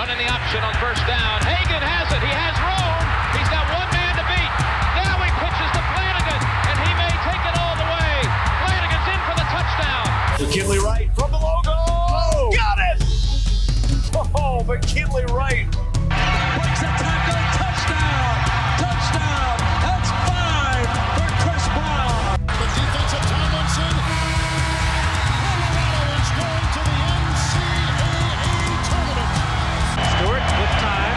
Running the option on first down. Hagan has it. He has room. He's got one man to beat. Now he pitches to Flanagan, and he may take it all the way. Flanagan's in for the touchdown. McKinley Wright from the logo. Oh, got it! Oh, McKinley Wright. Breaks a tackle. Touchdown. Touchdown. That's 5 for Chris Brown. The defensive Tomlinson. Colorado is going to the NCAA tournament. Stewart with time.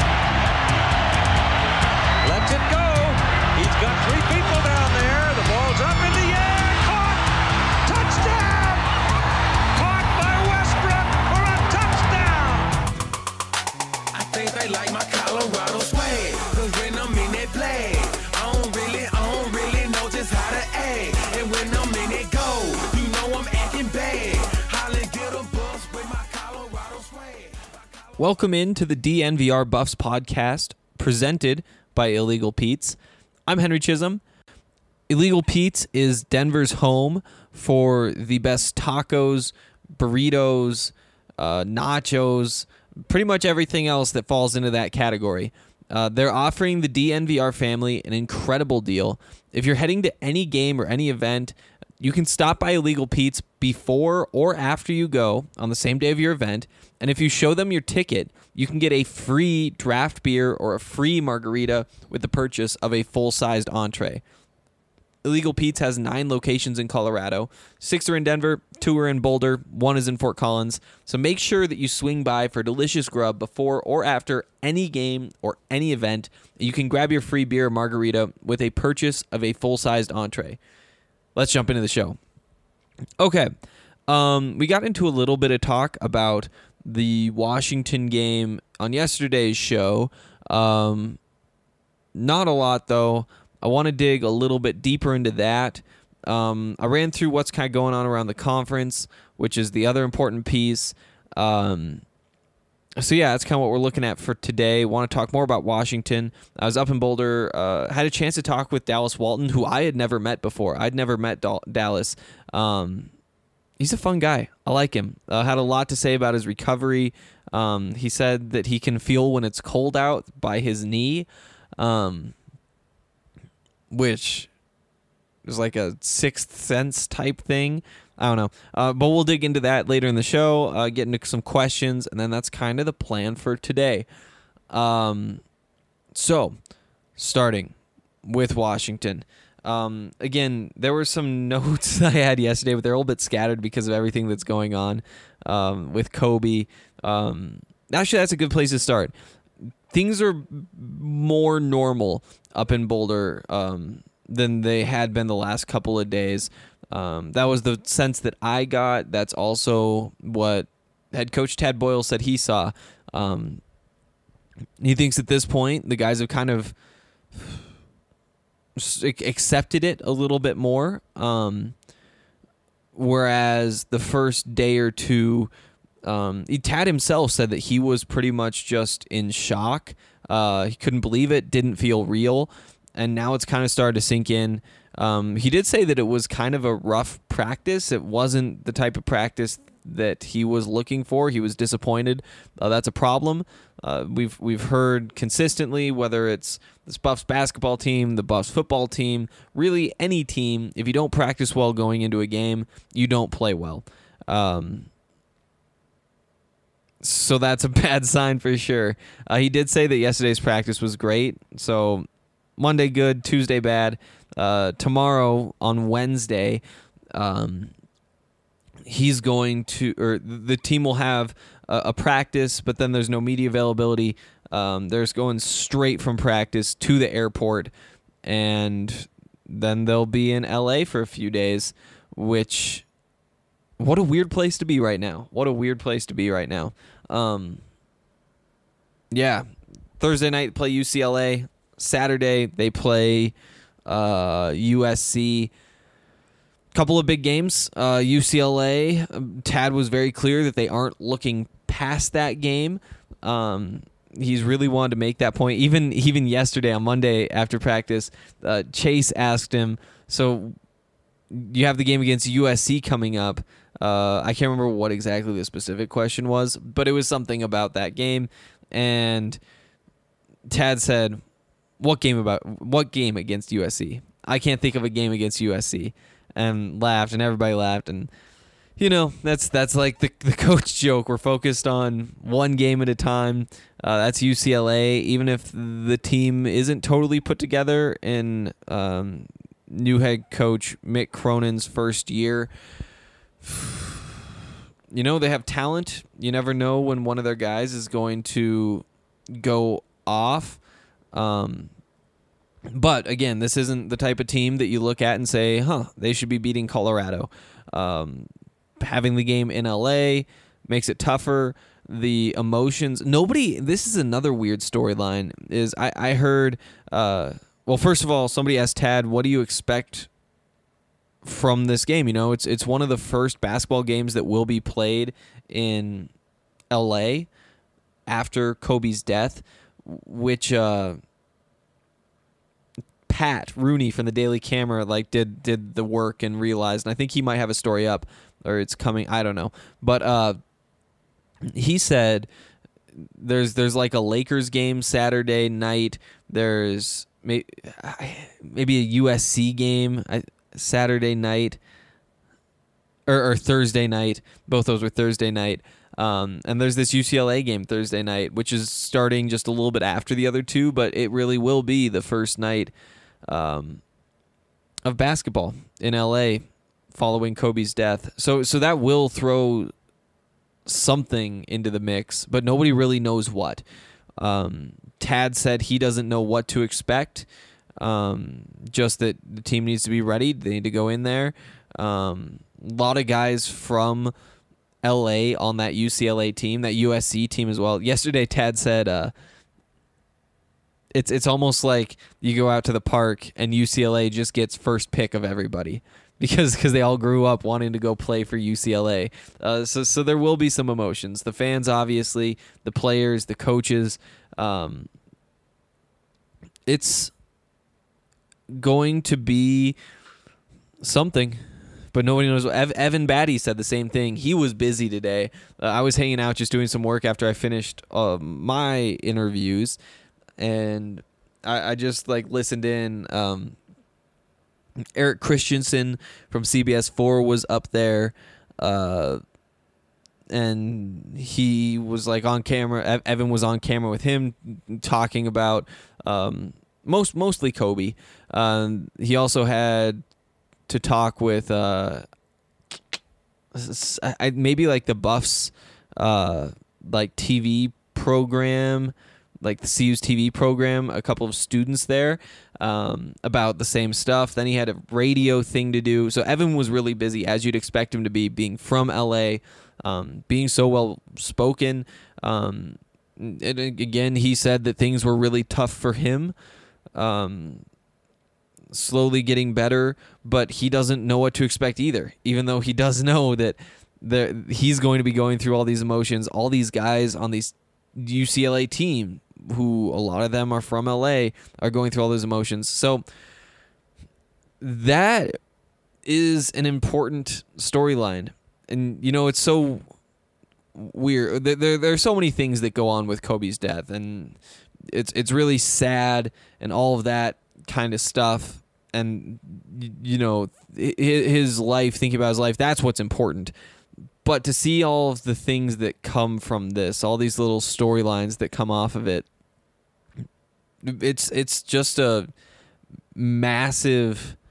Lets it go. He's got 3 people down there. The ball's up in the air. Caught. Touchdown. Caught by Westbrook for a touchdown. I think they like my Colorado swag, 'cause when I'm in that play, I don't really know just how to act. And when I'm in it go, you know I'm acting bad. Holland get a bus with my Colorado swag. Welcome into the DNVR Buffs podcast, presented by Illegal Pete's. I'm Henry Chisholm. Illegal Pete's is Denver's home for the best tacos, burritos, nachos, pretty much everything else that falls into that category. They're offering the DNVR family an incredible deal. If you're heading to any game or any event, you can stop by Illegal Pete's before or after you go on the same day of your event, and if you show them your ticket, you can get a free draft beer or a free margarita with the purchase of a full-sized entree. Illegal Pete's has 9 locations in Colorado. 6 are in Denver, 2 are in Boulder, 1 is in Fort Collins. So make sure that you swing by for delicious grub before or after any game or any event. You can grab your free beer or margarita with a purchase of a full-sized entree. Let's jump into the show. Okay, we got into a little bit of talk about the Washington game on yesterday's show. Not a lot, though. I want to dig a little bit deeper into that. I ran through what's kind of going on around the conference, which is the other important piece. So yeah, that's kind of what we're looking at for today. Want to talk more about Washington. I was up in Boulder, had a chance to talk with Dallas Walton, who I had never met before. I'd never met Dallas. He's a fun guy. I like him. Had a lot to say about his recovery. He said that he can feel when it's cold out by his knee, which is like a sixth sense type thing. I don't know. But we'll dig into that later in the show, get into some questions, and then that's kind of the plan for today. So, starting with Washington. Again, there were some notes I had yesterday, but they're a little bit scattered because of everything that's going on with Kobe. Actually, that's a good place to start. Things are more normal up in Boulder than they had been the last couple of days. That was the sense that I got. That's also what head coach Tad Boyle said he saw. He thinks at this point the guys have kind of accepted it a little bit more, whereas the first day or two, Tad himself said that he was pretty much just in shock. He couldn't believe it, didn't feel real, and now it's kind of started to sink in. He did say that it was kind of a rough practice. It wasn't the type of practice that he was looking for. He was disappointed. That's a problem. We've heard consistently, whether it's this Buffs basketball team, the Buffs football team, really any team, if you don't practice well going into a game, you don't play well. So that's a bad sign for sure. He did say that yesterday's practice was great. So Monday good, Tuesday bad. Tomorrow on Wednesday, he's going to, or the team will have a practice, but then there's no media availability. There's going straight from practice to the airport, and then they'll be in LA for a few days, which, what a weird place to be right now. Yeah, Thursday night play UCLA. Saturday they play USC. Couple of big games. UCLA, Tad was very clear that they aren't looking past that game. He's really wanted to make that point. Even yesterday on Monday after practice, Chase asked him, so you have the game against USC coming up. I can't remember what exactly the specific question was, but it was something about that game. And Tad said, what game against USC? I can't think of a game against USC. And laughed, and everybody laughed. And, that's like the coach joke. We're focused on one game at a time. That's UCLA. Even if the team isn't totally put together in new head coach Mick Cronin's first year, they have talent. You never know when one of their guys is going to go off. But again, this isn't the type of team that you look at and say, they should be beating Colorado. Having the game in LA makes it tougher. The emotions, this is another weird storyline, is I heard, first of all, somebody asked Tad, what do you expect from this game? It's one of the first basketball games that will be played in LA after Kobe's death, which Pat Rooney from the Daily Camera did the work and realized, and I think he might have a story up or it's coming, I don't know. But he said there's like a Lakers game Saturday night. There's maybe a USC game Saturday night or Thursday night. Both those were Thursday night. And there's this UCLA game Thursday night, which is starting just a little bit after the other two, but it really will be the first night of basketball in LA following Kobe's death. So that will throw something into the mix, but nobody really knows what. Tad said he doesn't know what to expect, just that the team needs to be ready. They need to go in there. A lot of guys from LA on that UCLA team, that USC team as well. Yesterday, Tad said it's almost like you go out to the park and UCLA just gets first pick of everybody because they all grew up wanting to go play for UCLA. So there will be some emotions. The fans, obviously, the players, the coaches. It's going to be something. But nobody knows. Evan Batty said the same thing. He was busy today. I was hanging out just doing some work after I finished my interviews, and I just listened in. Eric Christensen from CBS 4 was up there, and he was on camera. Evan was on camera with him talking about mostly Kobe. He also had to talk with maybe the Buffs TV program, the CU's TV program, a couple of students there about the same stuff. Then he had a radio thing to do. So Evan was really busy, as you'd expect him to be, being from LA, being so well spoken. And again, he said that things were really tough for him. Slowly getting better, but he doesn't know what to expect either, even though he does know that he's going to be going through all these emotions. All these guys on these UCLA team, who a lot of them are from LA, are going through all those emotions. So that is an important storyline. And, it's so weird. There are so many things that go on with Kobe's death, and it's really sad and all of that kind of stuff. And, his life, thinking about his life, that's what's important. But to see all of the things that come from this, all these little storylines that come off of it, it's just a massive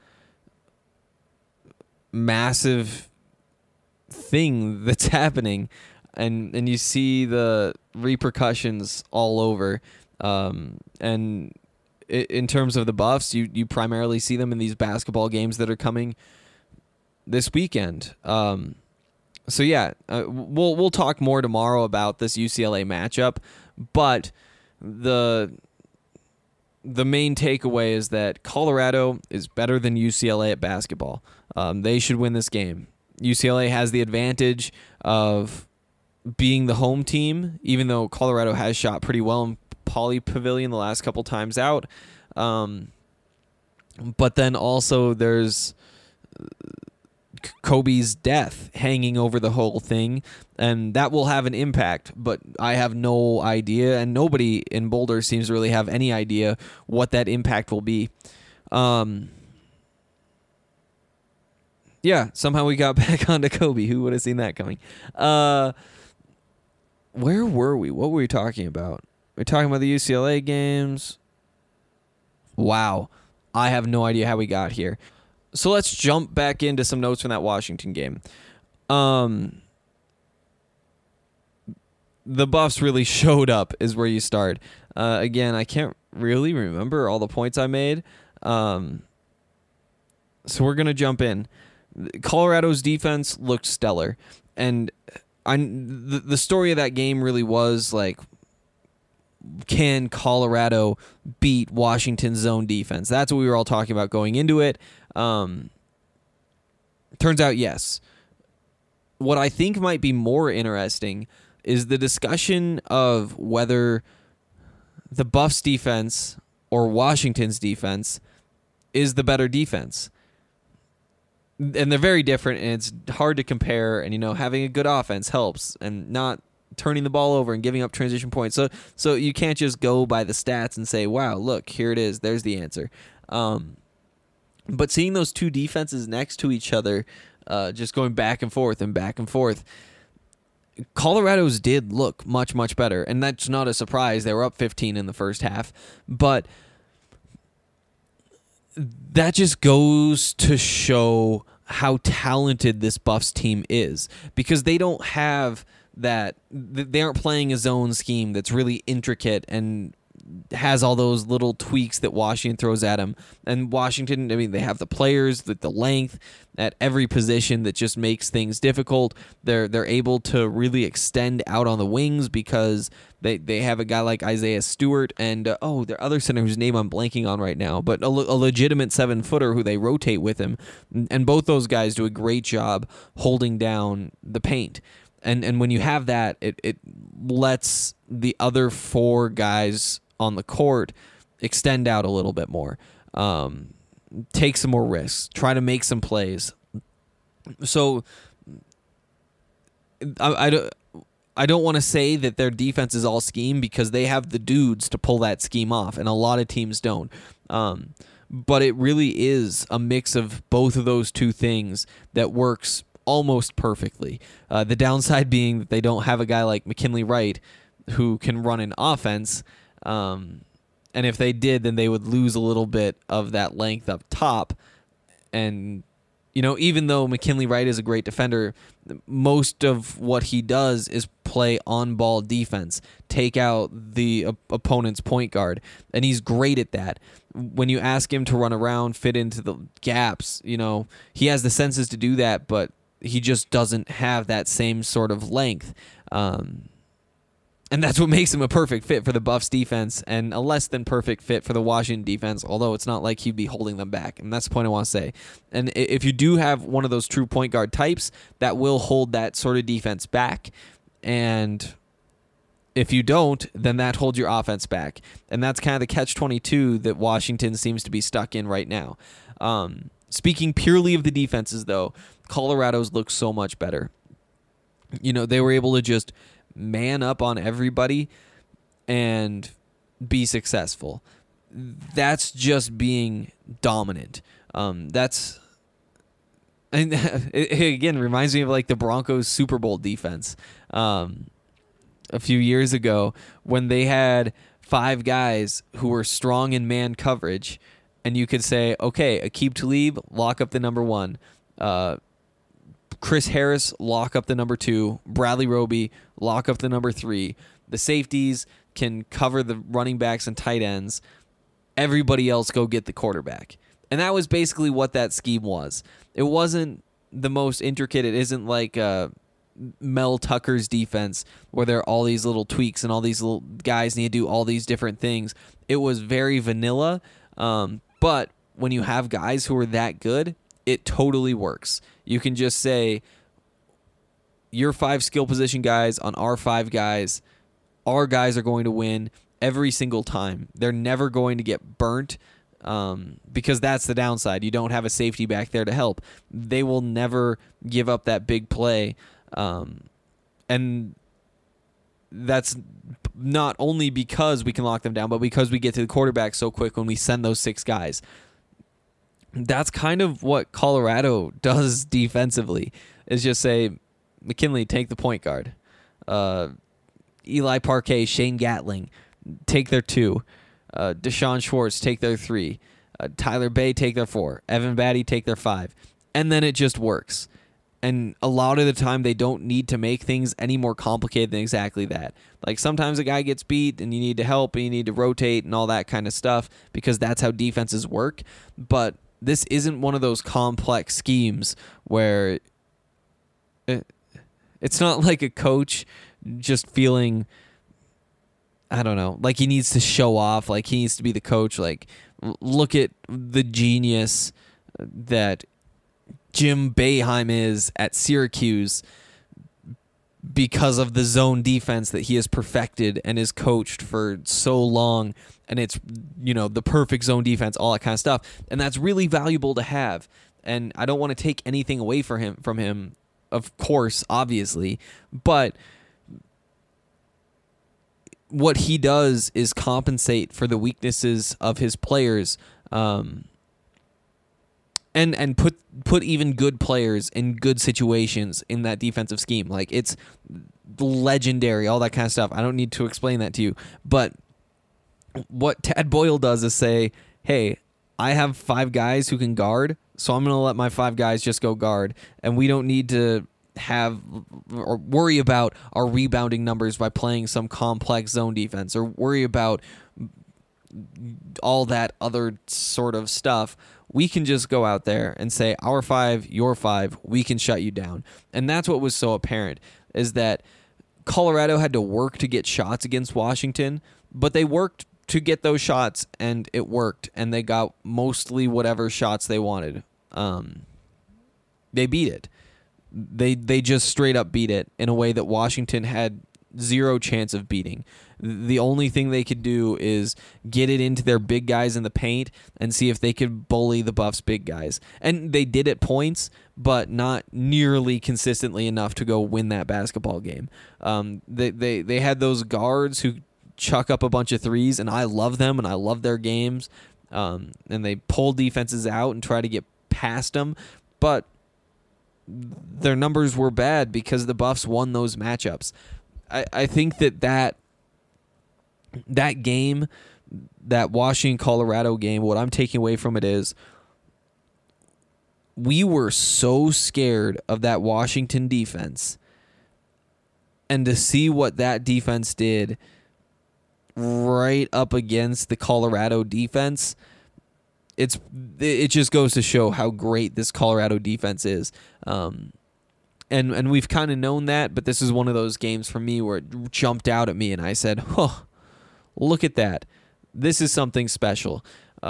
thing that's happening. And you see the repercussions all over. And in terms of the Buffs, you primarily see them in these basketball games that are coming this weekend. So yeah, we'll talk more tomorrow about this UCLA matchup, but the main takeaway is that Colorado is better than UCLA at basketball. They should win this game. UCLA has the advantage of being the home team, even though Colorado has shot pretty well in Pauley Pavilion the last couple times out. But then also there's Kobe's death hanging over the whole thing, and that will have an impact, but I have no idea, and nobody in Boulder seems to really have any idea what that impact will be. Yeah, somehow we got back onto Kobe. Who would have seen that coming? Where were we? What were we talking about? We're talking about the UCLA games. Wow. I have no idea how we got here. So let's jump back into some notes from that Washington game. The Buffs really showed up is where you start. Again, I can't really remember all the points I made. So we're going to jump in. Colorado's defense looked stellar. And the story of that game really was like, can Colorado beat Washington's zone defense? That's what we were all talking about going into it. Turns out yes. What I think might be more interesting is the discussion of whether the Buffs defense or Washington's defense is the better defense. And they're very different, and it's hard to compare, and having a good offense helps, and not turning the ball over and giving up transition points. So you can't just go by the stats and say, wow, look, here it is. There's the answer. But seeing those two defenses next to each other, just going back and forth, Colorado's did look much, much better. And that's not a surprise. They were up 15 in the first half. But that just goes to show how talented this Buffs team is. Because they don't have that, they aren't playing a zone scheme that's really intricate and has all those little tweaks that Washington throws at them. And Washington, they have the players with the length at every position that just makes things difficult. They're able to really extend out on the wings because they have a guy like Isaiah Stewart and their other center whose name I'm blanking on right now, but a legitimate 7-footer who they rotate with him. And both those guys do a great job holding down the paint. And when you have that, it lets the other 4 guys on the court extend out a little bit more, take some more risks, try to make some plays. So I don't want to say that their defense is all scheme because they have the dudes to pull that scheme off, and a lot of teams don't. But it really is a mix of both of those two things that works almost perfectly. The downside being that they don't have a guy like McKinley Wright who can run an offense. And if they did, then they would lose a little bit of that length up top. And, even though McKinley Wright is a great defender, most of what he does is play on-ball defense, take out the opponent's point guard, and he's great at that. When you ask him to run around, fit into the gaps, he has the senses to do that, but he just doesn't have that same sort of length. And that's what makes him a perfect fit for the Buffs defense and a less than perfect fit for the Washington defense, although it's not like he'd be holding them back. And that's the point I want to say. And if you do have one of those true point guard types, that will hold that sort of defense back. And if you don't, then that holds your offense back. And that's kind of the catch-22 that Washington seems to be stuck in right now. Speaking purely of the defenses, though, Colorado's looks so much better. They were able to just man up on everybody and be successful. That's just being dominant. It again reminds me of like the Broncos Super Bowl defense a few years ago when they had 5 guys who were strong in man coverage, and you could say, okay, Aqib Talib, lock up the number 1. Chris Harris, lock up the number 2. Bradley Roby, lock up the number 3. The safeties can cover the running backs and tight ends. Everybody else go get the quarterback. And that was basically what that scheme was. It wasn't the most intricate. It isn't like Mel Tucker's defense where there are all these little tweaks and all these little guys need to do all these different things. It was very vanilla. But when you have guys who are that good, it totally works. You can just say, your 5 skill position guys on our 5 guys, our guys are going to win every single time. They're never going to get burnt because that's the downside. You don't have a safety back there to help. They will never give up that big play, and that's not only because we can lock them down, but because we get to the quarterback so quick when we send those 6 guys. That's kind of what Colorado does defensively, is just say, McKinley, take the point guard. Eli Parquet, Shane Gatling, take their 2. Deshaun Schwartz, take their 3. Tyler Bay, take their 4. Evan Batty, take their 5. And then it just works. And a lot of the time, they don't need to make things any more complicated than exactly that. Like, sometimes a guy gets beat, and you need to help, and you need to rotate, and all that kind of stuff, because that's how defenses work. But this isn't one of those complex schemes where it's not like a coach just feeling, I don't know, like he needs to show off, like he needs to be the coach. Like, look at the genius that Jim Boeheim is at Syracuse because of the zone defense that he has perfected and is coached for so long. And it's, the perfect zone defense, all that kind of stuff. And that's really valuable to have. And I don't want to take anything away from him, of course, obviously. But what he does is compensate for the weaknesses of his players, and put even good players in good situations in that defensive scheme. Like, it's legendary, all that kind of stuff. I don't need to explain that to you. But what Tad Boyle does is say, hey, I have 5 guys who can guard, so I'm going to let my 5 guys just go guard, and we don't need to have or worry about our rebounding numbers by playing some complex zone defense, or worry about all that other sort of stuff. We can just go out there and say, our 5, your 5, we can shut you down. And that's what was so apparent, is that Colorado had to work to get shots against Washington, but they worked to get those shots, and it worked, and they got mostly whatever shots they wanted. They beat it. They just straight up beat it in a way that Washington had zero chance of beating. The only thing they could do is get it into their big guys in the paint and see if they could bully the Buffs' big guys. And they did at points, but not nearly consistently enough to go win that basketball game. They had those guards who chuck up a bunch of threes, and I love them, and I love their games. And they pull defenses out and try to get past them, but their numbers were bad because the Buffs won those matchups. I think that game, that Washington-Colorado game, what I'm taking away from it is we were so scared of that Washington defense, and to see what that defense did right up against the Colorado defense, it just goes to show how great this Colorado defense is. And we've kind of known that, but this is one of those games for me where it jumped out at me, and I said, "Huh, look at that! This is something special."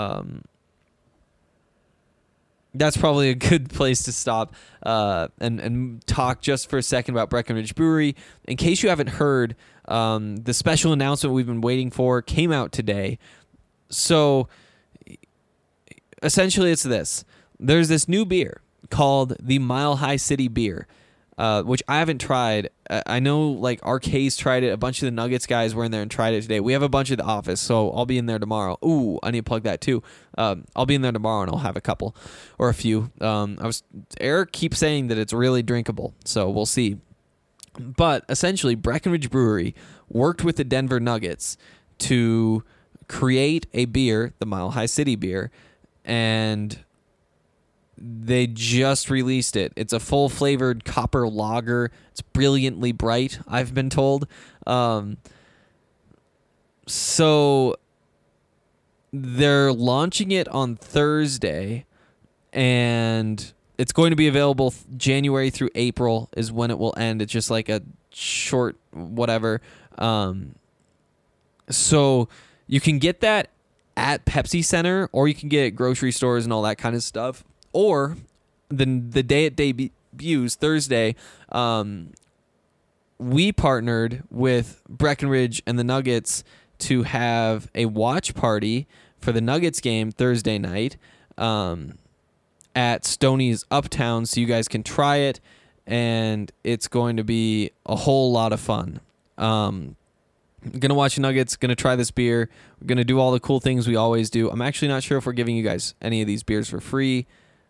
That's probably a good place to stop and talk just for a second about Breckenridge Brewery. In case you haven't heard, the special announcement we've been waiting for came out today. So essentially it's this. There's this new beer called the Mile High City Beer, which I haven't tried. I know like RK's tried it. A bunch of the Nuggets guys were in there and tried it today. We have a bunch at the office, so I'll be in there tomorrow. Ooh, I need to plug that too. I'll be in there tomorrow and I'll have a couple or a few. Eric keeps saying that it's really drinkable, so we'll see. But essentially, Breckenridge Brewery worked with the Denver Nuggets to create a beer, the Mile High City Beer, and they just released it. It's a full-flavored copper lager. It's brilliantly bright, I've been told. So they're launching it on Thursday, and it's going to be available January through April is when it will end. It's just like a short whatever. So you can get that at Pepsi Center, or you can get it at grocery stores and all that kind of stuff. Or the day it debuts, Thursday, we partnered with Breckenridge and the Nuggets to have a watch party for the Nuggets game Thursday night at Stoney's Uptown, so you guys can try it, and it's going to be a whole lot of fun. Going to watch the Nuggets, going to try this beer. We're going to do all the cool things we always do. I'm actually not sure if we're giving you guys any of these beers for free.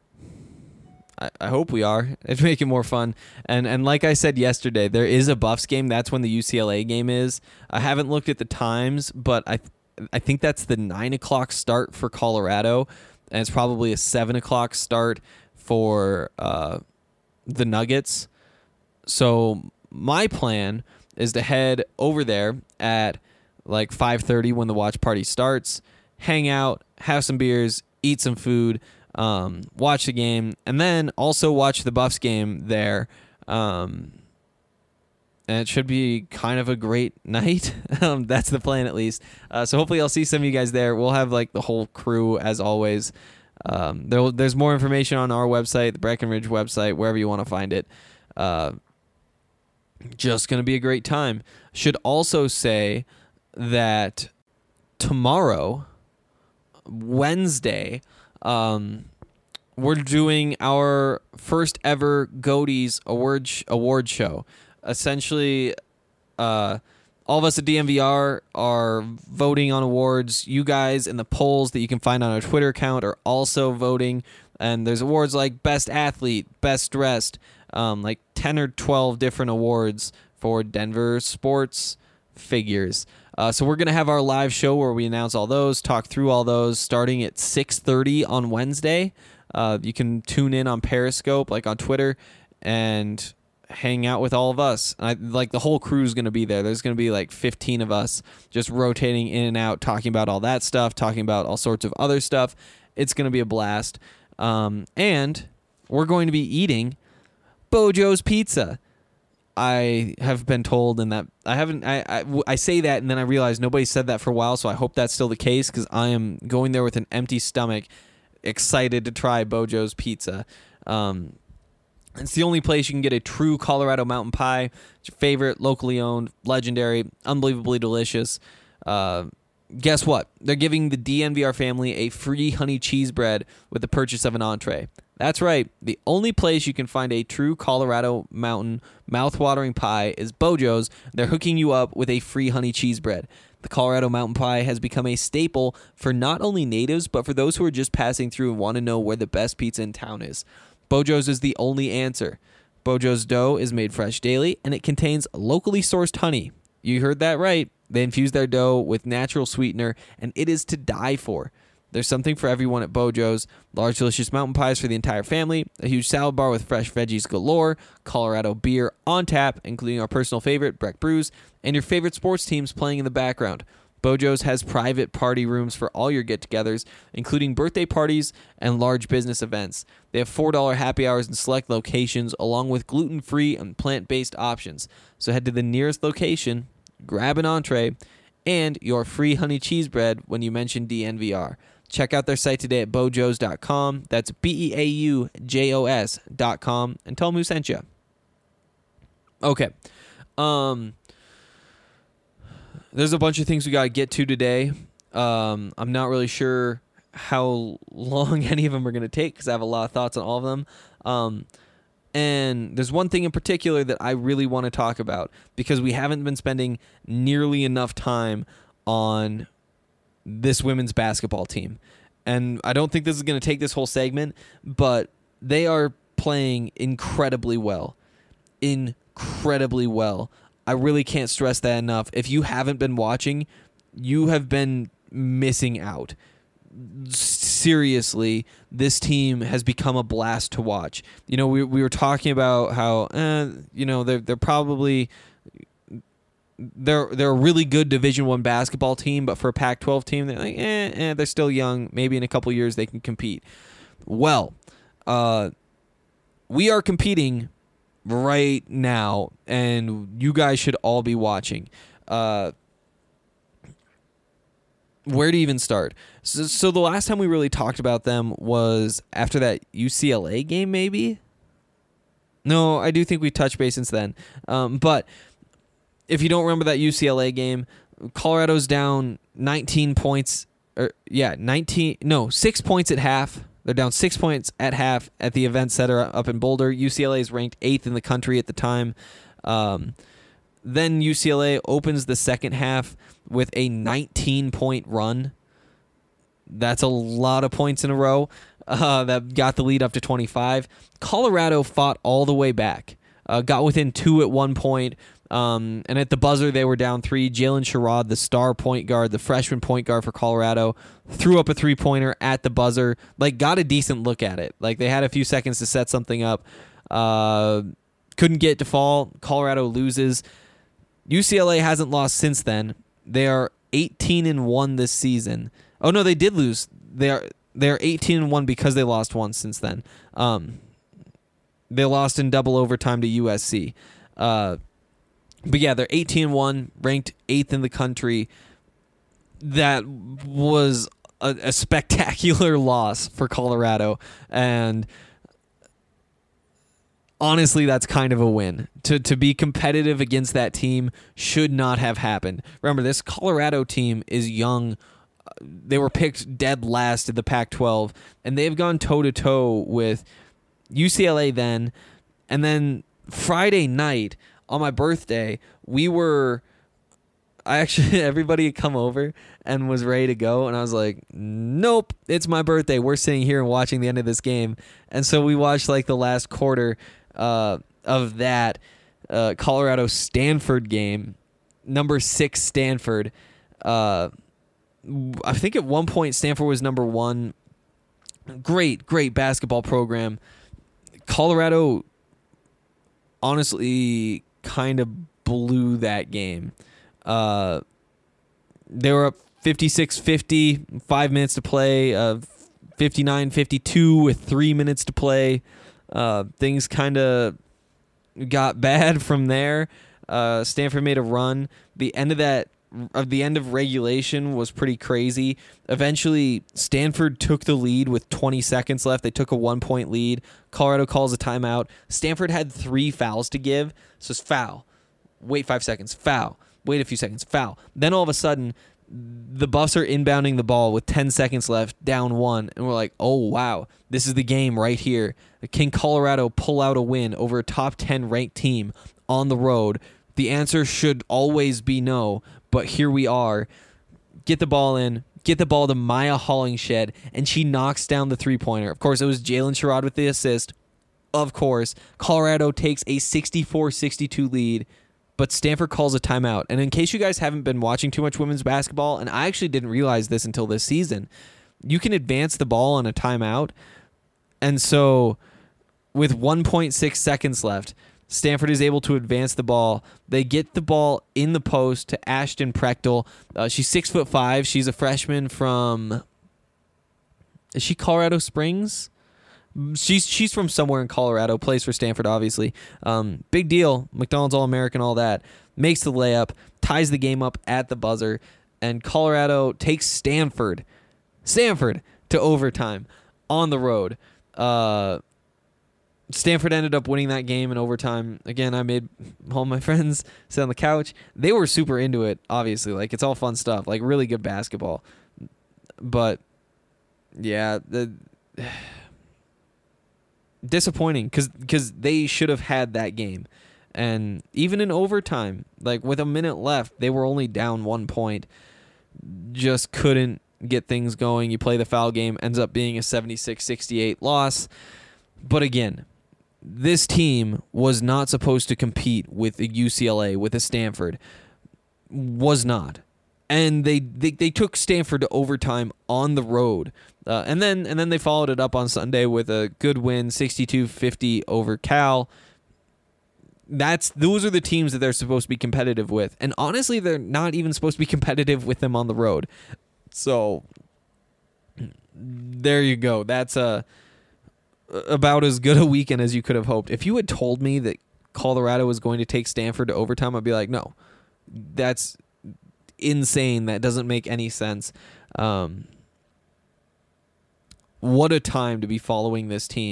I hope we are. It'd make it more fun. And like I said yesterday, there is a Buffs game. That's when the UCLA game is. I haven't looked at the times, but I think that's the 9 o'clock start for Colorado, and it's probably a 7 o'clock start for the Nuggets. So my plan is to head over there at like 5:30 when the watch party starts, hang out, have some beers, eat some food, watch the game, and then also watch the Buffs game there. And it should be kind of a great night. That's the plan, at least. So hopefully I'll see some of you guys there. We'll have like the whole crew as always. There's more information on our website, the Breckenridge website, wherever you want to find it. Just going to be a great time. Should also say that tomorrow, Wednesday, we're doing our first ever Goaties award show. Essentially, all of us at DNVR are voting on awards. You guys in the polls that you can find on our Twitter account are also voting. And there's awards like Best Athlete, Best Dressed, like 10 or 12 different awards for Denver sports figures. So we're going to have our live show where we announce all those, talk through all those, starting at 6:30 on Wednesday. You can tune in on Periscope, like on Twitter, and hang out with all of us. Like the whole crew is going to be there. There's going to be like 15 of us just rotating in and out, talking about all that stuff, talking about all sorts of other stuff. It's going to be a blast. And we're going to be eating Bojo's Pizza. I have been told, and that I say that, and then I realize nobody said that for a while, so I hope that's still the case, because I am going there with an empty stomach, excited to try Bojo's Pizza. It's the only place you can get a true Colorado mountain pie. It's your favorite, locally owned, legendary, unbelievably delicious. Guess what? They're giving the DNVR family a free honey cheese bread with the purchase of an entree. That's right. The only place you can find a true Colorado mountain mouth-watering pie is Bojo's. They're hooking you up with a free honey cheese bread. The Colorado mountain pie has become a staple for not only natives, but for those who are just passing through and want to know where the best pizza in town is. Bojo's is the only answer. Bojo's dough is made fresh daily, and it contains locally sourced honey. You heard that right. They infuse their dough with natural sweetener, and it is to die for. There's something for everyone at Bojo's. Large, delicious mountain pies for the entire family, a huge salad bar with fresh veggies galore, Colorado beer on tap, including our personal favorite, Breck Brews, and your favorite sports teams playing in the background. Bojo's has private party rooms for all your get-togethers, including birthday parties and large business events. They have $4 happy hours in select locations, along with gluten-free and plant-based options. So head to the nearest location, grab an entree, and your free honey cheese bread when you mention DNVR. Check out their site today at bojos.com. That's BEAUJOS.com, and tell them who sent you. Okay. There's a bunch of things we got to get to today. I'm not really sure how long any of them are going to take, because I have a lot of thoughts on all of them. And there's one thing in particular that I really want to talk about, because we haven't been spending nearly enough time on this women's basketball team. And I don't think this is going to take this whole segment, but they are playing incredibly well. Incredibly well. I really can't stress that enough. If you haven't been watching, you have been missing out. Seriously, this team has become a blast to watch. You know, we were talking about how they're probably they're a really good Division I basketball team, but for a Pac-12 team, they're like they're still young. Maybe in a couple years they can compete. Well, we are competing right now, and you guys should all be watching. Where to even start? So the last time we really talked about them was after that UCLA game, maybe? No, I do think we touched base since then. But if you don't remember that UCLA game, Colorado's down 19 points 6 points at half. They're down 6 points at half at the Event Center up in Boulder. UCLA is ranked 8th in the country at the time. Then UCLA opens the second half with a 19-point run. That's a lot of points in a row. That got the lead up to 25. Colorado fought all the way back. Got within 2 at one point. And at the buzzer, they were down 3. Jalen Sherrod, the star point guard, the freshman point guard for Colorado, threw up a three-pointer at the buzzer. Got a decent look at it. They had a few seconds to set something up. Couldn't get it to fall. Colorado loses. UCLA hasn't lost since then. They are 18-1 this season. Oh no, they did lose. They are 18-1 because they lost once since then. They lost in double overtime to USC. But yeah, they're 18-1, ranked 8th in the country. That was a spectacular loss for Colorado, and honestly, that's kind of a win. To be competitive against that team should not have happened. Remember, this Colorado team is young. They were picked dead last in the Pac-12, and they've gone toe-to-toe with UCLA then. And then Friday night, on my birthday, everybody had come over and was ready to go, and I was like, nope, it's my birthday. We're sitting here and watching the end of this game. And so we watched the last quarter of that Colorado-Stanford game, number 6 Stanford. I think at one point Stanford was number 1. Great basketball program. Colorado honestly kind of blew that game. They were up 56-50, 5 minutes to play, 59-52 with 3 minutes to play. Things kind of got bad from there. Stanford made a run. The end of regulation was pretty crazy. Eventually, Stanford took the lead with 20 seconds left. They took a 1-point lead. Colorado calls a timeout. Stanford had 3 fouls to give. So it's foul. Wait 5 seconds. Foul. Wait a few seconds. Foul. Then all of a sudden, the Buffs are inbounding the ball with 10 seconds left, down 1. And we're like, oh, wow. This is the game right here. Can Colorado pull out a win over a top 10 ranked team on the road? The answer should always be no. But here we are. Get the ball in. Get the ball to Maya Hollingshed, and she knocks down the three-pointer. Of course, it was Jalen Sherrod with the assist. Of course, Colorado takes a 64-62 lead, but Stanford calls a timeout. And in case you guys haven't been watching too much women's basketball, and I actually didn't realize this until this season, you can advance the ball on a timeout. And so with 1.6 seconds left, Stanford is able to advance the ball. They get the ball in the post to Ashton Prechtel. She's 6'5". She's a freshman from... Is she Colorado Springs? She's from somewhere in Colorado. Plays for Stanford, obviously. Big deal. McDonald's All-American, all that. Makes the layup. Ties the game up at the buzzer. And Colorado takes Stanford to overtime on the road. Stanford ended up winning that game in overtime. Again, I made all my friends sit on the couch. They were super into it, obviously. It's all fun stuff. Really good basketball. But, yeah, disappointing because they should have had that game. And even in overtime, with a minute left, they were only down 1 point. Just couldn't get things going. You play the foul game, ends up being a 76-68 loss. But again, this team was not supposed to compete with the UCLA, with a Stanford. Was not. And they took Stanford to overtime on the road. And then they followed it up on Sunday with a good win, 62-50 over Cal. Those are the teams that they're supposed to be competitive with. And honestly, they're not even supposed to be competitive with them on the road. So there you go. That's about as good a weekend as you could have hoped. If you had told me that Colorado was going to take Stanford to overtime, I'd be like, no, that's insane. That doesn't make any sense. What a time to be following this team.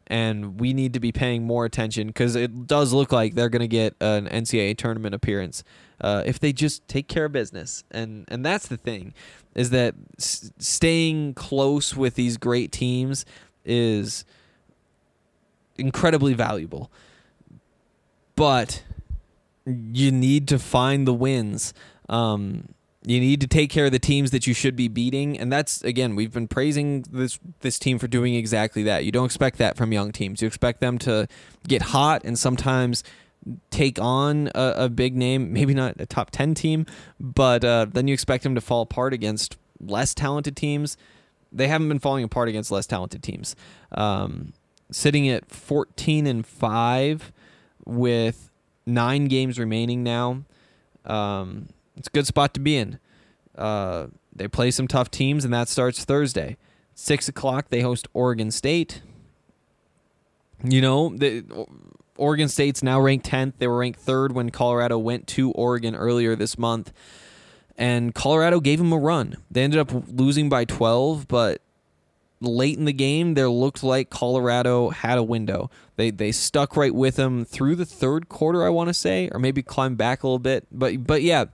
and we need to be paying more attention because it does look like they're going to get an NCAA tournament appearance if they just take care of business. And that's the thing, is that staying close with these great teams is incredibly valuable. But you need to find the wins. You need to take care of the teams that you should be beating, and that's, again, we've been praising this team for doing exactly that. You don't expect that from young teams. You expect them to get hot and sometimes take on a big name, maybe not a top 10 team, but then you expect them to fall apart against less talented teams. They haven't been falling apart against less talented teams. Sitting at 14-5 with 9 games remaining now. It's a good spot to be in. They play some tough teams, and that starts Thursday. 6 o'clock, they host Oregon State. You know, Oregon State's now ranked 10th. They were ranked 3rd when Colorado went to Oregon earlier this month. And Colorado gave them a run. They ended up losing by 12, but late in the game, there looked like Colorado had a window. They stuck right with them through the 3rd quarter, I want to say, or maybe climbed back a little bit. But yeah,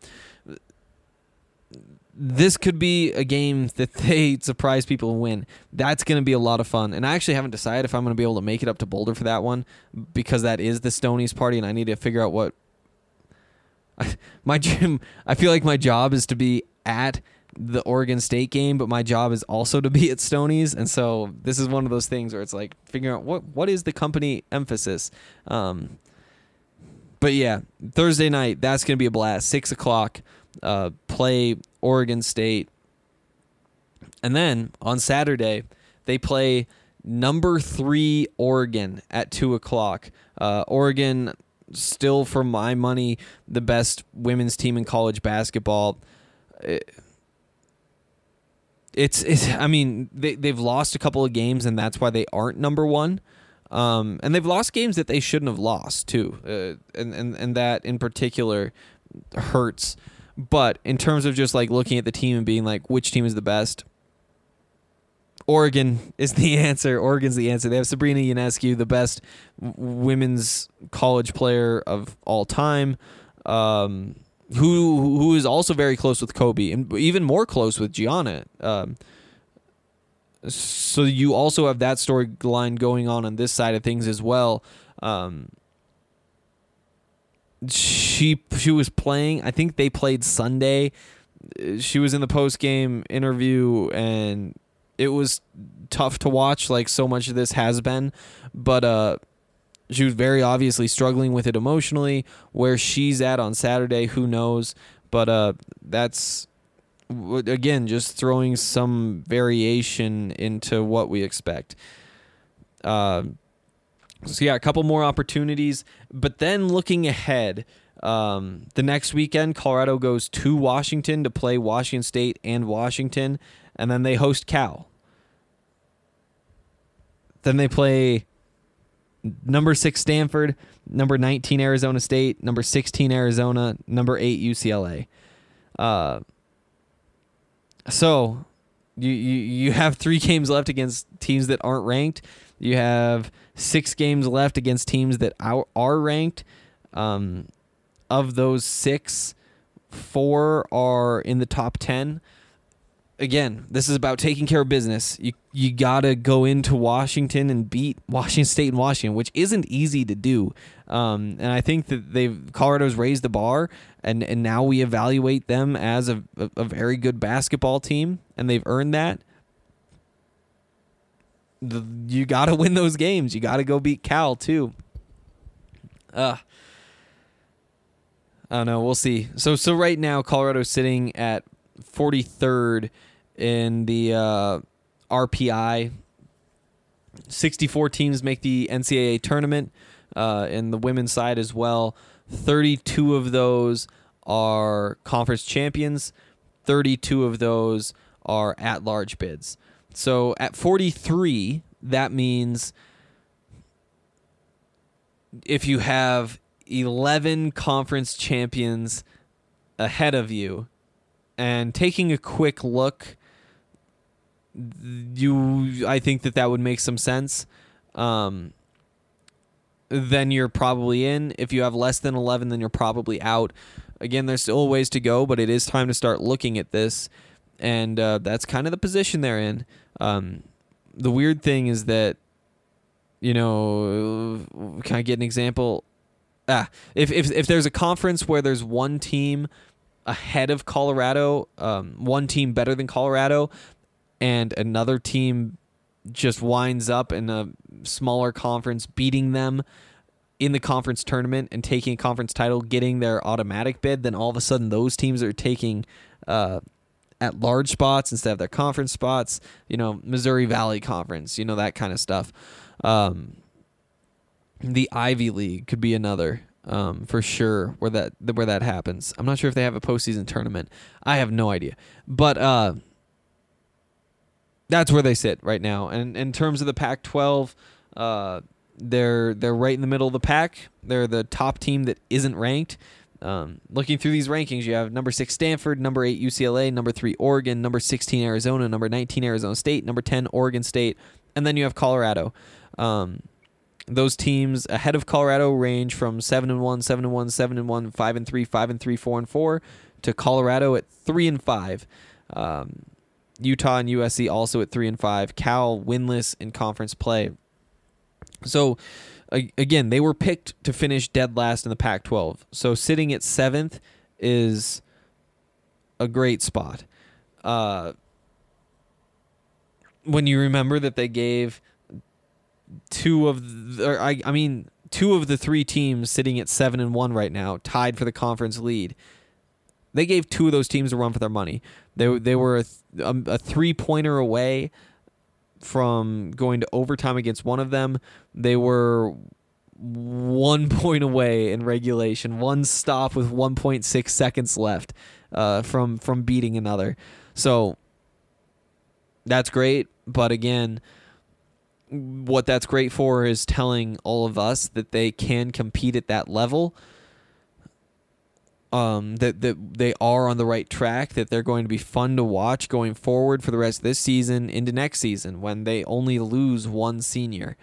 this could be a game that they surprise people and win. That's going to be a lot of fun. And I actually haven't decided if I'm going to be able to make it up to Boulder for that one, because that is the Stonies party, and I need to figure out what my gym. I feel like my job is to be at the Oregon State game, but my job is also to be at Stonies, and so this is one of those things where it's like figuring out what is the company emphasis. But yeah, Thursday night, that's going to be a blast. 6 o'clock, play Oregon State. And then on Saturday, they play number 3 Oregon at 2 o'clock. Oregon, still for my money, the best women's team in college basketball. I mean, they've lost a couple of games, and that's why they aren't number 1. And they've lost games that they shouldn't have lost too, and that in particular hurts. But in terms of just like looking at the team and being like, which team is the best, Oregon is the answer. Oregon's the answer. They have Sabrina Ionescu, the best women's college player of all time, who is also very close with Kobe and even more close with Gianna. So you also have that storyline going on this side of things as well. She was playing. I think they played Sunday. She was in the post-game interview, and it was tough to watch, like so much of this has been. But she was very obviously struggling with it emotionally. Where she's at on Saturday, who knows? But that's, again, just throwing some variation into what we expect. So yeah, a couple more opportunities. But then looking ahead, the next weekend, Colorado goes to Washington to play Washington State and Washington, and then they host Cal. Then they play number 6 Stanford, number 19 Arizona State, number 16 Arizona, number 8 UCLA. So you have 3 games left against teams that aren't ranked. You have 6 games left against teams that are ranked. Of those 6, 4 are in the top 10. Again, this is about taking care of business. You got to go into Washington and beat Washington State and Washington, which isn't easy to do. And I think that Colorado's raised the bar, and now we evaluate them as a very good basketball team, and they've earned that. You got to win those games. You got to go beat Cal too. I don't know. We'll see. So right now, Colorado's sitting at 43rd in the RPI. 64 teams make the NCAA tournament in the women's side as well. 32 of those are conference champions. 32 of those are at-large bids. So at 43, that means if you have 11 conference champions ahead of you, and taking a quick look, I think that would make some sense. then you're probably in. If you have less than 11, then you're probably out. Again, there's still a ways to go, but it is time to start looking at this, and that's kind of the position they're in. The weird thing is that, can I get an example? If there's a conference where there's one team ahead of Colorado, one team better than Colorado, and another team just winds up in a smaller conference beating them in the conference tournament and taking a conference title, getting their automatic bid, then all of a sudden those teams are taking at large spots instead of their conference spots, Missouri Valley Conference, that kind of stuff. The Ivy League could be another, for sure, where that happens. I'm not sure if they have a postseason tournament. I have no idea. But that's where they sit right now. And in terms of the Pac-12, they're right in the middle of the pack. They're the top team that isn't ranked. Looking through these rankings, you have number 6 Stanford, number 8 UCLA, number 3 Oregon, number 16 Arizona, number 19 Arizona State, number 10 Oregon State, and then you have Colorado. Those teams ahead of Colorado range from 7-1, 7-1, 7-1, 5-3, 5-3, 4-4 to Colorado at 3-5. Utah and USC also at 3-5. Cal winless in conference play. So again, they were picked to finish dead last in the Pac-12. So sitting at 7th is a great spot. When you remember that they gave two of the 3 teams sitting at 7-1 right now, tied for the conference lead. They gave 2 of those teams a run for their money. They were a 3-pointer away from going to overtime against one of them. They were 1 point away in regulation, one stop with 1.6 seconds left from beating another. So that's great, but again, what that's great for is telling all of us that they can compete at that level, that they are on the right track, that they're going to be fun to watch going forward for the rest of this season into next season when they only lose one senior.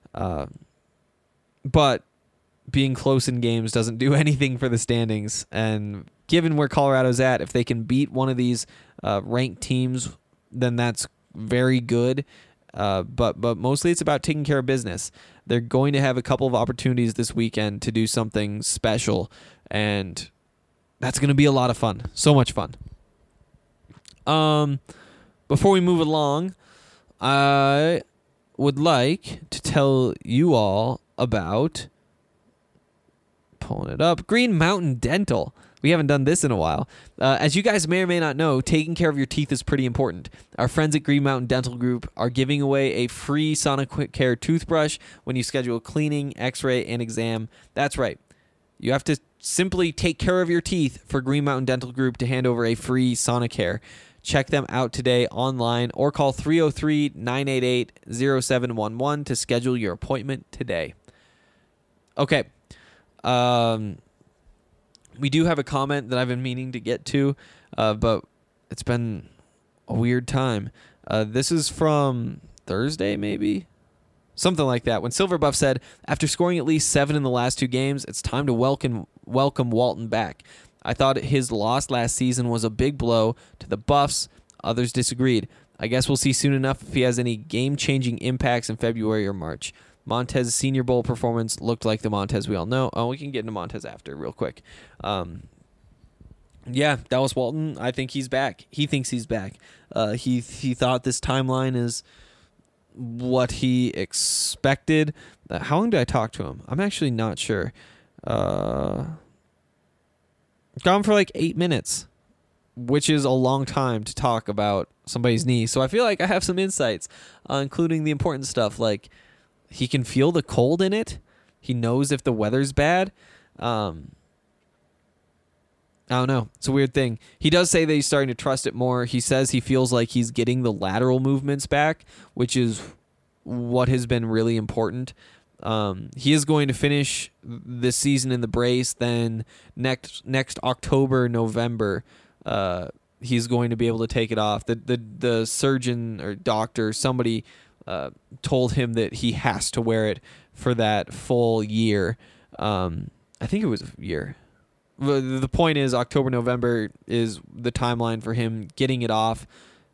But being close in games doesn't do anything for the standings, and given where Colorado's at, if they can beat one of these ranked teams, then that's very good. But mostly it's about taking care of business. They're going to have a couple of opportunities this weekend to do something special, and that's going to be a lot of fun. So much fun. Before we move along, I would like to tell you all about, pulling it up, Green Mountain Dental. We haven't done this in a while. As you guys may or may not know, taking care of your teeth is pretty important. Our friends at Green Mountain Dental Group are giving away a free Sonicare toothbrush when you schedule a cleaning, x-ray, and exam. That's right. You have to simply take care of your teeth for Green Mountain Dental Group to hand over a free Sonicare. Check them out today online or call 303-988-0711 to schedule your appointment today. Okay. We do have a comment that I've been meaning to get to, but it's been a weird time. This is from Thursday, maybe? Something like that. When Silver Buff said, after scoring at least 7 in the last 2 games, it's time to welcome Walton back. I thought his loss last season was a big blow to the Buffs. Others disagreed. I guess we'll see soon enough if he has any game-changing impacts in February or March. Montez's Senior Bowl performance looked like the Montez we all know. Oh, we can get into Montez after real quick. Yeah, Dallas Walton, I think he's back. He thinks he's back. He thought this timeline is what he expected. How long did I talk to him? I'm actually not sure. Gone for like 8 minutes, which is a long time to talk about somebody's knee. So I feel like I have some insights, including the important stuff like he can feel the cold in it. He knows if the weather's bad. I don't know. It's a weird thing. He does say that he's starting to trust it more. He says he feels like he's getting the lateral movements back, which is what has been really important. He is going to finish this season in the brace. Then next October, November, he's going to be able to take it off. The surgeon or doctor, somebody told him that he has to wear it for that full year. I think it was a year. The point is October, November is the timeline for him getting it off.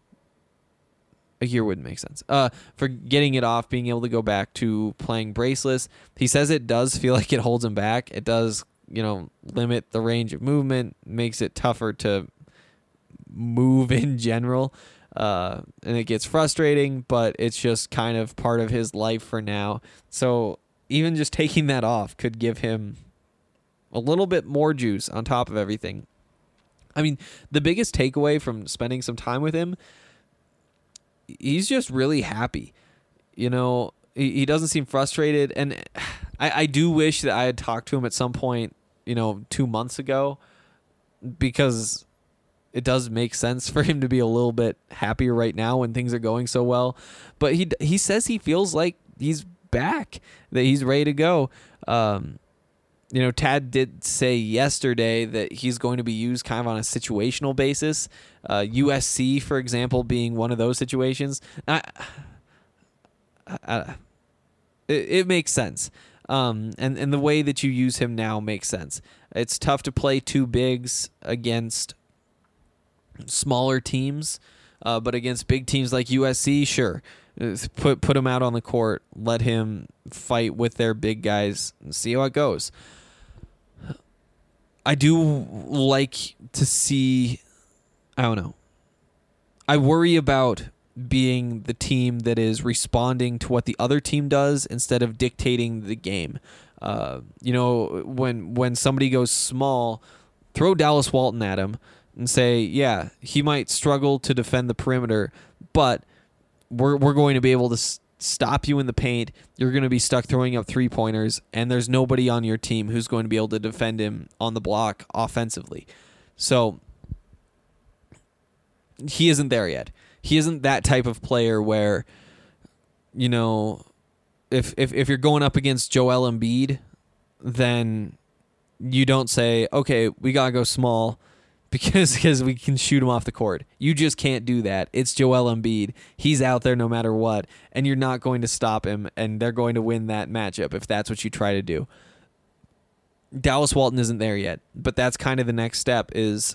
A year wouldn't make sense. For getting it off, being able to go back to playing braceless. He says it does feel like it holds him back. It does, limit the range of movement, makes it tougher to move in general. And it gets frustrating, but it's just kind of part of his life for now. So even just taking that off could give him a little bit more juice on top of everything. I mean, the biggest takeaway from spending some time with him, he's just really happy. He doesn't seem frustrated. And I do wish that I had talked to him at some point, 2 months ago, because it does make sense for him to be a little bit happier right now when things are going so well. But he says he feels like he's back, that he's ready to go. Tad did say yesterday that he's going to be used kind of on a situational basis. USC, for example, being one of those situations. It makes sense. And the way that you use him now makes sense. It's tough to play two bigs against smaller teams, but against big teams like USC, sure. Put him out on the court, let him fight with their big guys, and see how it goes. I do like to see, I don't know. I worry about being the team that is responding to what the other team does instead of dictating the game. When somebody goes small, throw Dallas Walton at him and say, yeah, he might struggle to defend the perimeter, but we're going to be able to stop you in the paint. You're going to be stuck throwing up 3-pointers, and there's nobody on your team who's going to be able to defend him on the block offensively. So he isn't there yet. He isn't that type of player where, if you're going up against Joel Embiid, then you don't say, okay, we got to go small because we can shoot him off the court. You just can't do that. It's Joel Embiid. He's out there no matter what, and you're not going to stop him, and they're going to win that matchup if that's what you try to do. Dallas Walton isn't there yet, but that's kind of the next step is,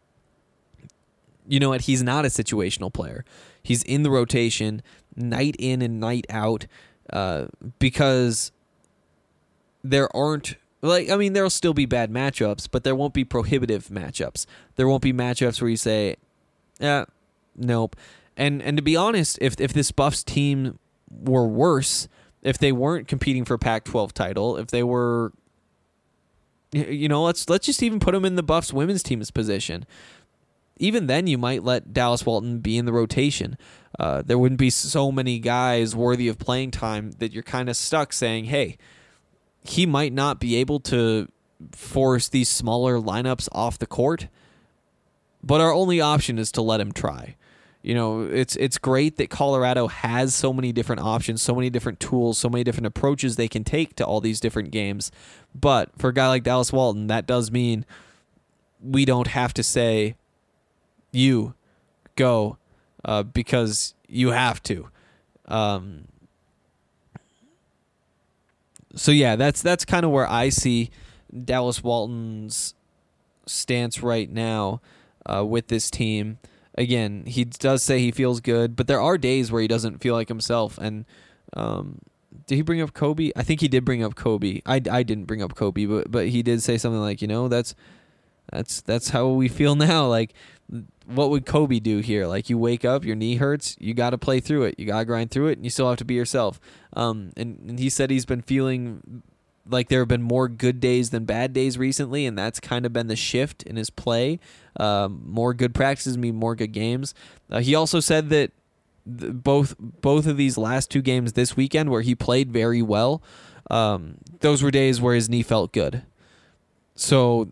he's not a situational player. He's in the rotation night in and night out because there aren't, there'll still be bad matchups, but there won't be prohibitive matchups. There won't be matchups where you say, nope. And to be honest, if this Buffs team were worse, if they weren't competing for a Pac-12 title, if they were, let's just even put them in the Buffs women's team's position. Even then, you might let Dallas Walton be in the rotation. There wouldn't be so many guys worthy of playing time that you're kind of stuck saying, hey, he might not be able to force these smaller lineups off the court, but our only option is to let him try. It's great that Colorado has so many different options, so many different tools, so many different approaches they can take to all these different games. But for a guy like Dallas Walton, that does mean we don't have to say, you go because you have to. So yeah, that's kind of where I see Dallas Walton's stance right now with this team. Again, he does say he feels good, but there are days where he doesn't feel like himself. And did he bring up Kobe? I think he did bring up Kobe. I didn't bring up Kobe, but he did say something like, that's how we feel now. Like, what would Kobe do here? Like, you wake up, your knee hurts, you got to play through it. You got to grind through it, and you still have to be yourself. And he said he's been feeling like there have been more good days than bad days recently, and that's kind of been the shift in his play. More good practices mean more good games. He also said that both of these last two games this weekend where he played very well, those were days where his knee felt good. So,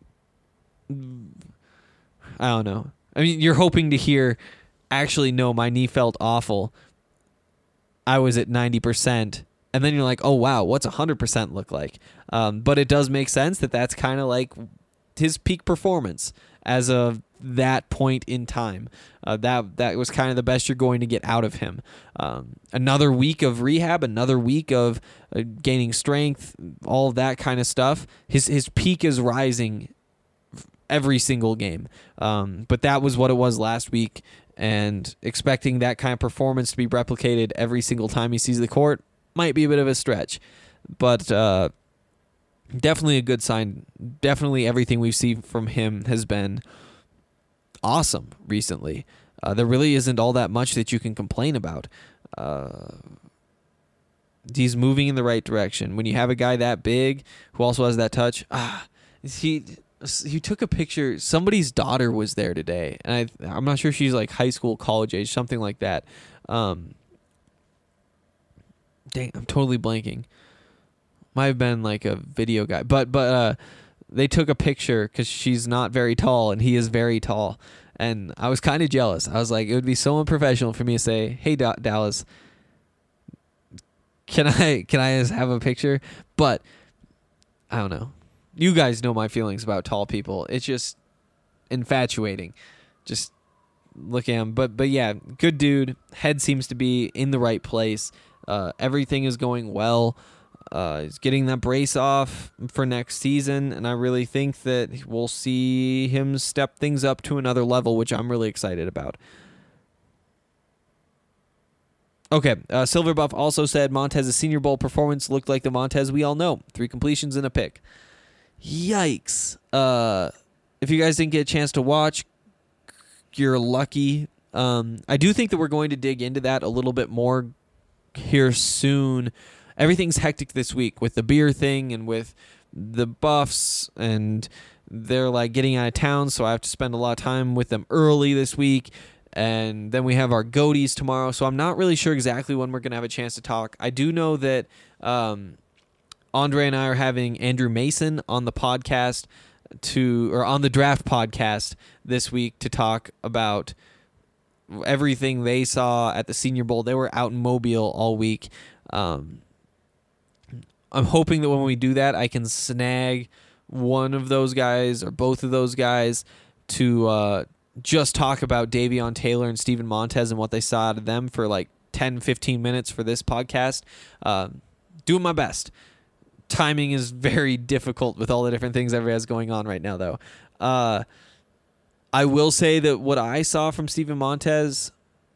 I don't know. I mean, you're hoping to hear, actually, no, my knee felt awful. I was at 90%. And then you're like, oh, wow, what's 100% look like? But it does make sense that that's kind of like his peak performance as of that point in time. That was kind of the best you're going to get out of him. Another week of rehab, another week of gaining strength, all of that kind of stuff. His peak is rising every single game. But that was what it was last week, and expecting that kind of performance to be replicated every single time he sees the court might be a bit of a stretch. But definitely a good sign. Definitely everything we've seen from him has been awesome recently. There really isn't all that much that you can complain about. He's moving in the right direction. When you have a guy that big who also has that touch, he took a picture. Somebody's daughter was there today, and I'm not sure if she's like high school, college age, something like that. Dang, I'm totally blanking. Might have been like a video guy, but they took a picture because she's not very tall and he is very tall, and I was kind of jealous. I was like, it would be so unprofessional for me to say, "Hey, Dallas, can I just have a picture?" But I don't know. You guys know my feelings about tall people. It's just infatuating. Just look at him. But yeah, good dude. Head seems to be in the right place. Everything is going well. He's getting that brace off for next season, and I really think that we'll see him step things up to another level, which I'm really excited about. Okay, Silver Buff also said Montez's Senior Bowl performance looked like the Montez we all know. 3 completions and a pick. Yikes. If you guys didn't get a chance to watch, you're lucky. I do think that we're going to dig into that a little bit more here soon. Everything's hectic this week with the beer thing and with the Buffs, and they're like getting out of town, so I have to spend a lot of time with them early this week. And then we have our Goaties tomorrow, so I'm not really sure exactly when we're going to have a chance to talk. I do know that Andre and I are having Andrew Mason on the podcast on the Draft podcast this week to talk about everything they saw at the Senior Bowl. They were out in Mobile all week. I'm hoping that when we do that, I can snag one of those guys or both of those guys to just talk about Davion Taylor and Steven Montez and what they saw out of them for like 10, 15 minutes for this podcast. Doing my best. Timing is very difficult with all the different things everybody has going on right now, though. I will say that what I saw from Steven Montez...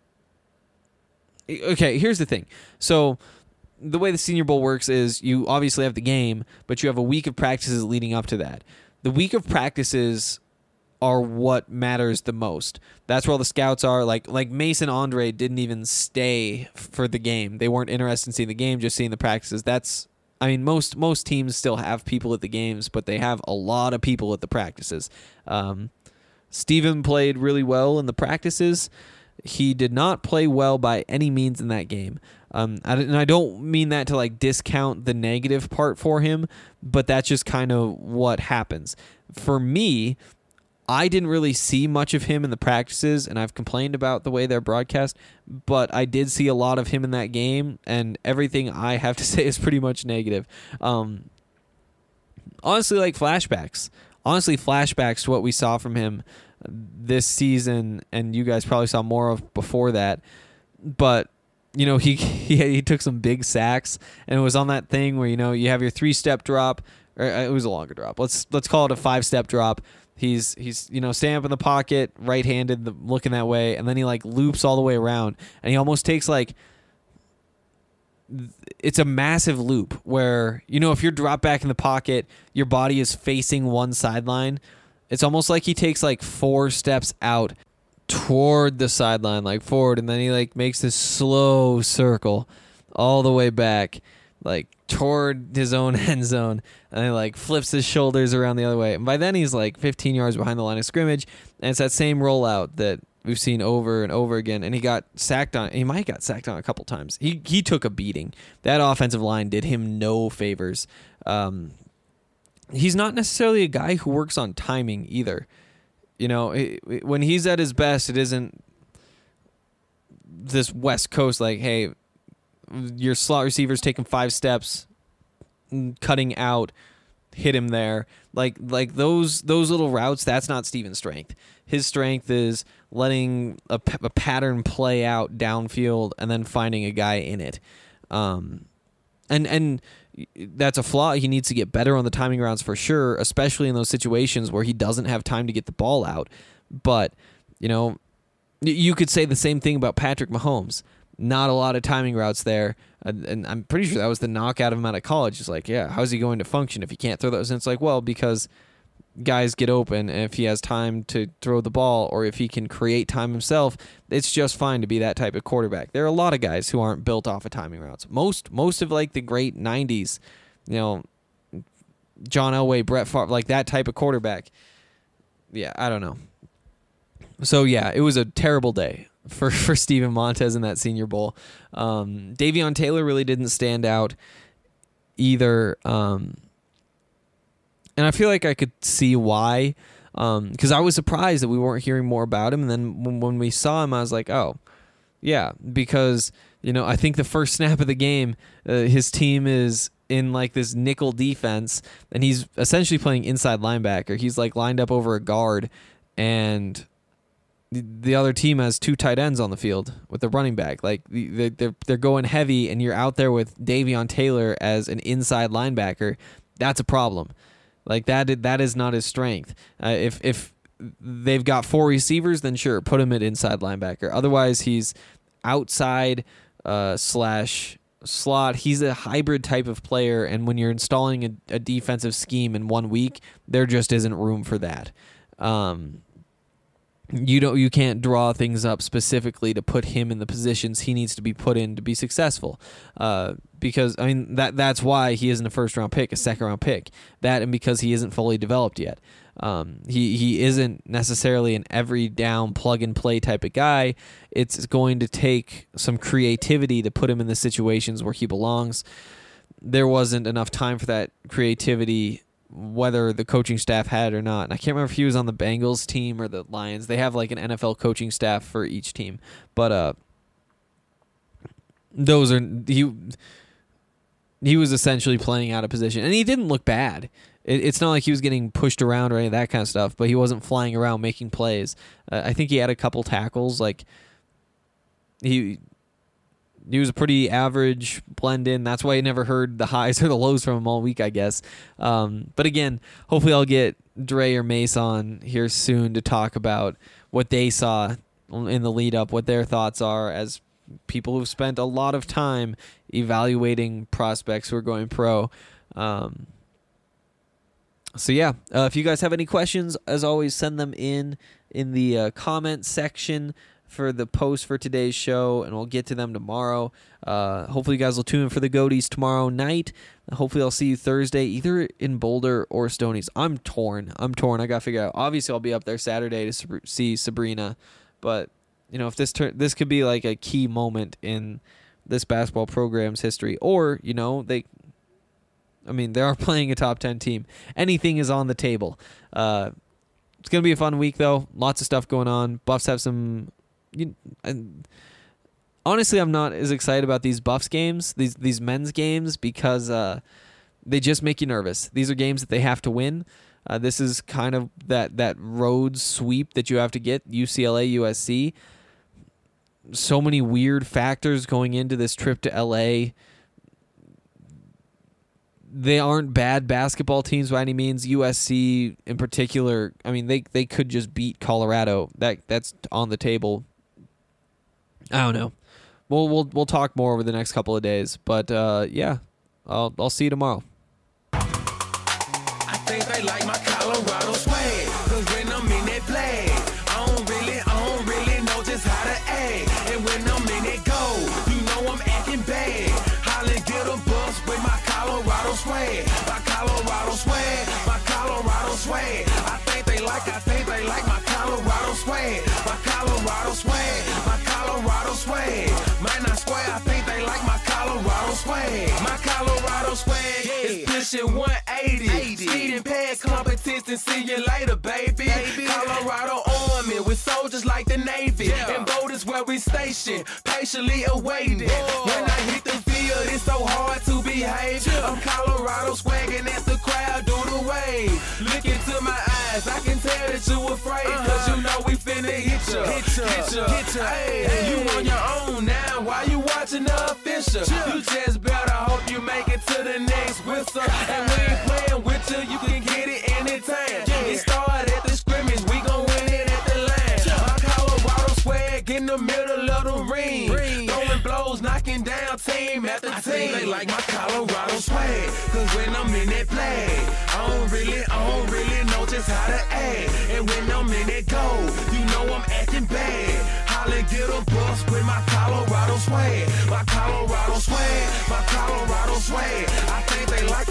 Okay, here's the thing. So the way the Senior Bowl works is you obviously have the game, but you have a week of practices leading up to that. The week of practices are what matters the most. That's where all the scouts are. Like Mason Andre didn't even stay for the game. They weren't interested in seeing the game, just seeing the practices. Most teams still have people at the games, but they have a lot of people at the practices. Steven played really well in the practices. He did not play well by any means in that game. And I don't mean that to like discount the negative part for him, but that's just kind of what happens. For me, I didn't really see much of him in the practices, and I've complained about the way they're broadcast, but I did see a lot of him in that game, and everything I have to say is pretty much negative. Honestly, like flashbacks. Honestly, flashbacks to what we saw from him this season, and you guys probably saw more of before that. But, you know, he took some big sacks, and it was on that thing where, you know, you have your 3-step drop, or it was a longer drop. Let's call it a 5-step drop. He's standing up in the pocket, right-handed, looking that way, and then he like loops all the way around, and he almost takes like, it's a massive loop where, you know, if you're dropped back in the pocket, your body is facing one sideline. It's almost like he takes like 4 steps out toward the sideline, like forward, and then he like makes this slow circle all the way back, like toward his own end zone, and he like flips his shoulders around the other way. And by then he's like 15 yards behind the line of scrimmage, and it's that same rollout that we've seen over and over again. And he got sacked on. He might have got sacked on a couple times. He took a beating. That offensive line did him no favors. He's not necessarily a guy who works on timing either. You know, when he's at his best, it isn't this West Coast like, hey, your slot receiver's taking 5 steps, cutting out hit him there. Like those little routes, that's not Steven's strength. His strength is letting a pattern play out downfield and then finding a guy in it. And that's a flaw. He needs to get better on the timing routes for sure, especially in those situations where he doesn't have time to get the ball out. But, you could say the same thing about Patrick Mahomes. Not a lot of timing routes there. And I'm pretty sure that was the knockout of him out of college. It's like, yeah, how's he going to function if he can't throw those? And it's like, well, because guys get open, and if he has time to throw the ball or if he can create time himself, it's just fine to be that type of quarterback. There are a lot of guys who aren't built off of timing routes. Most of like the great 90s, John Elway, Brett Favre, like that type of quarterback. Yeah, I don't know. So yeah, it was a terrible day for Steven Montez in that Senior Bowl. Davion Taylor really didn't stand out either. And I feel like I could see why, because I was surprised that we weren't hearing more about him. And then when we saw him, I was like, oh, yeah, because, I think the first snap of the game, his team is in like this nickel defense, and he's essentially playing inside linebacker. He's like lined up over a guard, and the other team has two tight ends on the field with a running back. Like they're going heavy, and you're out there with Davion Taylor as an inside linebacker. That's a problem. Like that is not his strength. If they've got four receivers, then sure, put him at inside linebacker. Otherwise, he's outside / slot. He's a hybrid type of player, and when you're installing a defensive scheme in 1 week, there just isn't room for that. You can't draw things up specifically to put him in the positions he needs to be put in to be successful. Because that's why he isn't a first round pick, a second round pick. That, and because he isn't fully developed yet. He isn't necessarily an every down plug and play type of guy. It's going to take some creativity to put him in the situations where he belongs. There wasn't enough time for that creativity, whether the coaching staff had it or not. And I can't remember if he was on the Bengals team or the Lions. They have like an NFL coaching staff for each team. But he was essentially playing out of position. And he didn't look bad. It's not like he was getting pushed around or any of that kind of stuff, but he wasn't flying around making plays. I think he had a couple tackles. Like he was a pretty average blend in. That's why I never heard the highs or the lows from him all week, I guess. But again, hopefully I'll get Dre or Mace on here soon to talk about what they saw in the lead up, what their thoughts are as people who've spent a lot of time evaluating prospects who are going pro. So yeah, if you guys have any questions, as always, send them in the comment section for the post for today's show, and we'll get to them tomorrow. Hopefully you guys will tune in for the Goaties tomorrow night. Hopefully I'll see you Thursday, either in Boulder or Stoney's. I'm torn. I got to figure out. Obviously I'll be up there Saturday to see Sabrina, but if this could be like a key moment in this basketball program's history, or they are playing a top 10 team. Anything is on the table. It's going to be a fun week, though. Lots of stuff going on. Buffs have some... honestly, I'm not as excited about these Buffs games, these men's games, because they just make you nervous. These are games that they have to win. This is kind of that road sweep that you have to get, UCLA, USC. So many weird factors going into this trip to LA. They aren't bad basketball teams by any means. USC in particular, they could just beat Colorado. That's on the table. I don't know. We'll talk more over the next couple of days. But yeah, I'll see you tomorrow. I think they like my Colorado swag, 'cause when I'm in that flag, I don't really know just how to act. And when I'm in that goal, I'm acting bad. Holly get a bus with my Colorado swag. My Colorado swag, my Colorado swag. I think they like my Colorado swag. My Colorado swag, my Colorado swag. Might not square, I think they like my Colorado swag. My Colorado swag is pushing 180. Speeding past competition, see you later, baby. Colorado Army with soldiers like the Navy. And voters where we station, patiently awaiting. When I hit the field, it's so hard to behave. I'm Colorado swagging as the crowd do the away. Look into my eyes, I can tell that you afraid. Cause you know we finna hit ya. Hey, you on your own now, why you watching the official? You just better hope you make it to the next whistle. And we ain't playing with you can get it anytime. It started at the scrimmage, we gon' win it at the line. My Colorado swag in the middle of the ring. Throwing blows, knocking down team after team. I think they like my Colorado swag, cause when I'm in that play, I don't really know just how to act. And when I'm in that goal, you know I'm acting bad. Holla, get a bus with my Colorado swag. My Colorado swag, my Colorado swag. I think they like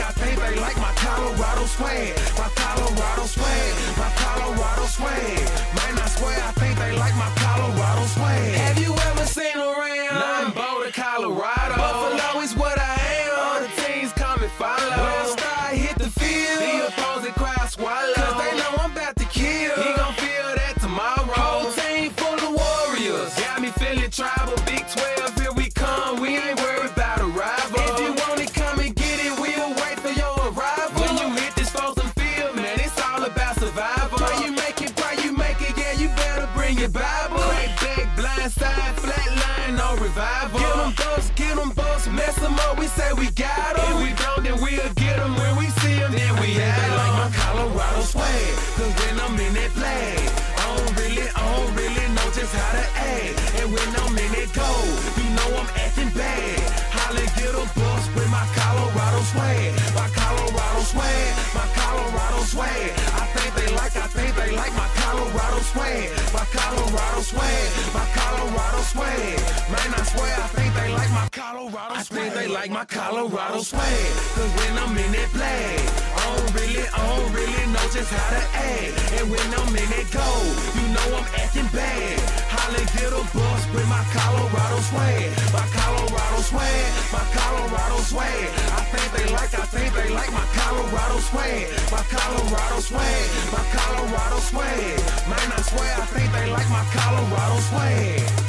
my Colorado swag. My Colorado swag, my Colorado swag. Man, I swear, I think they like my Colorado swag. Have you ever seen around? I'm Boulder, Colorado. Buffalo is what I am. All the teams come and follow. When Star hit the field, the opposing crowd swallow. Cause they know I'm about to kill. He gon' feel that tomorrow. Whole team full of warriors. Got me feeling tribal. Big 12, here we come. We ain't worried about a rival. If you want it, come and get it. We'll wait for your arrival. When you hit this frozen field, man, it's all about survival. Pray you make it, yeah, you better bring your Bible. Crack back, blind side, flat line, no revival. Get them bucks, mess them up, we say we got them. If we don't, then we'll get them. When we see them, then we have them. Like my Colorado swag, cause when I'm in that play, I don't really know just how to act. And when I'm in that goal, you know I'm acting bad. Holla, get a bus with my Colorado swag. My Colorado swag, my Colorado swag. I think they like my Colorado swag. My Colorado swag, my Colorado swag. Man, I swear, I think they like my Colorado swag. I think they like my Colorado swag. Cause when I'm in that play, I don't really know just how to act. And when I'm in that goal, you know I'm acting bad. Holla, get a bus with my Colorado swag. My Colorado swag, my Colorado swag. I think they like my Colorado swag. My Colorado swag, my Colorado swag. Man, I swear, I think they like my Colorado swag.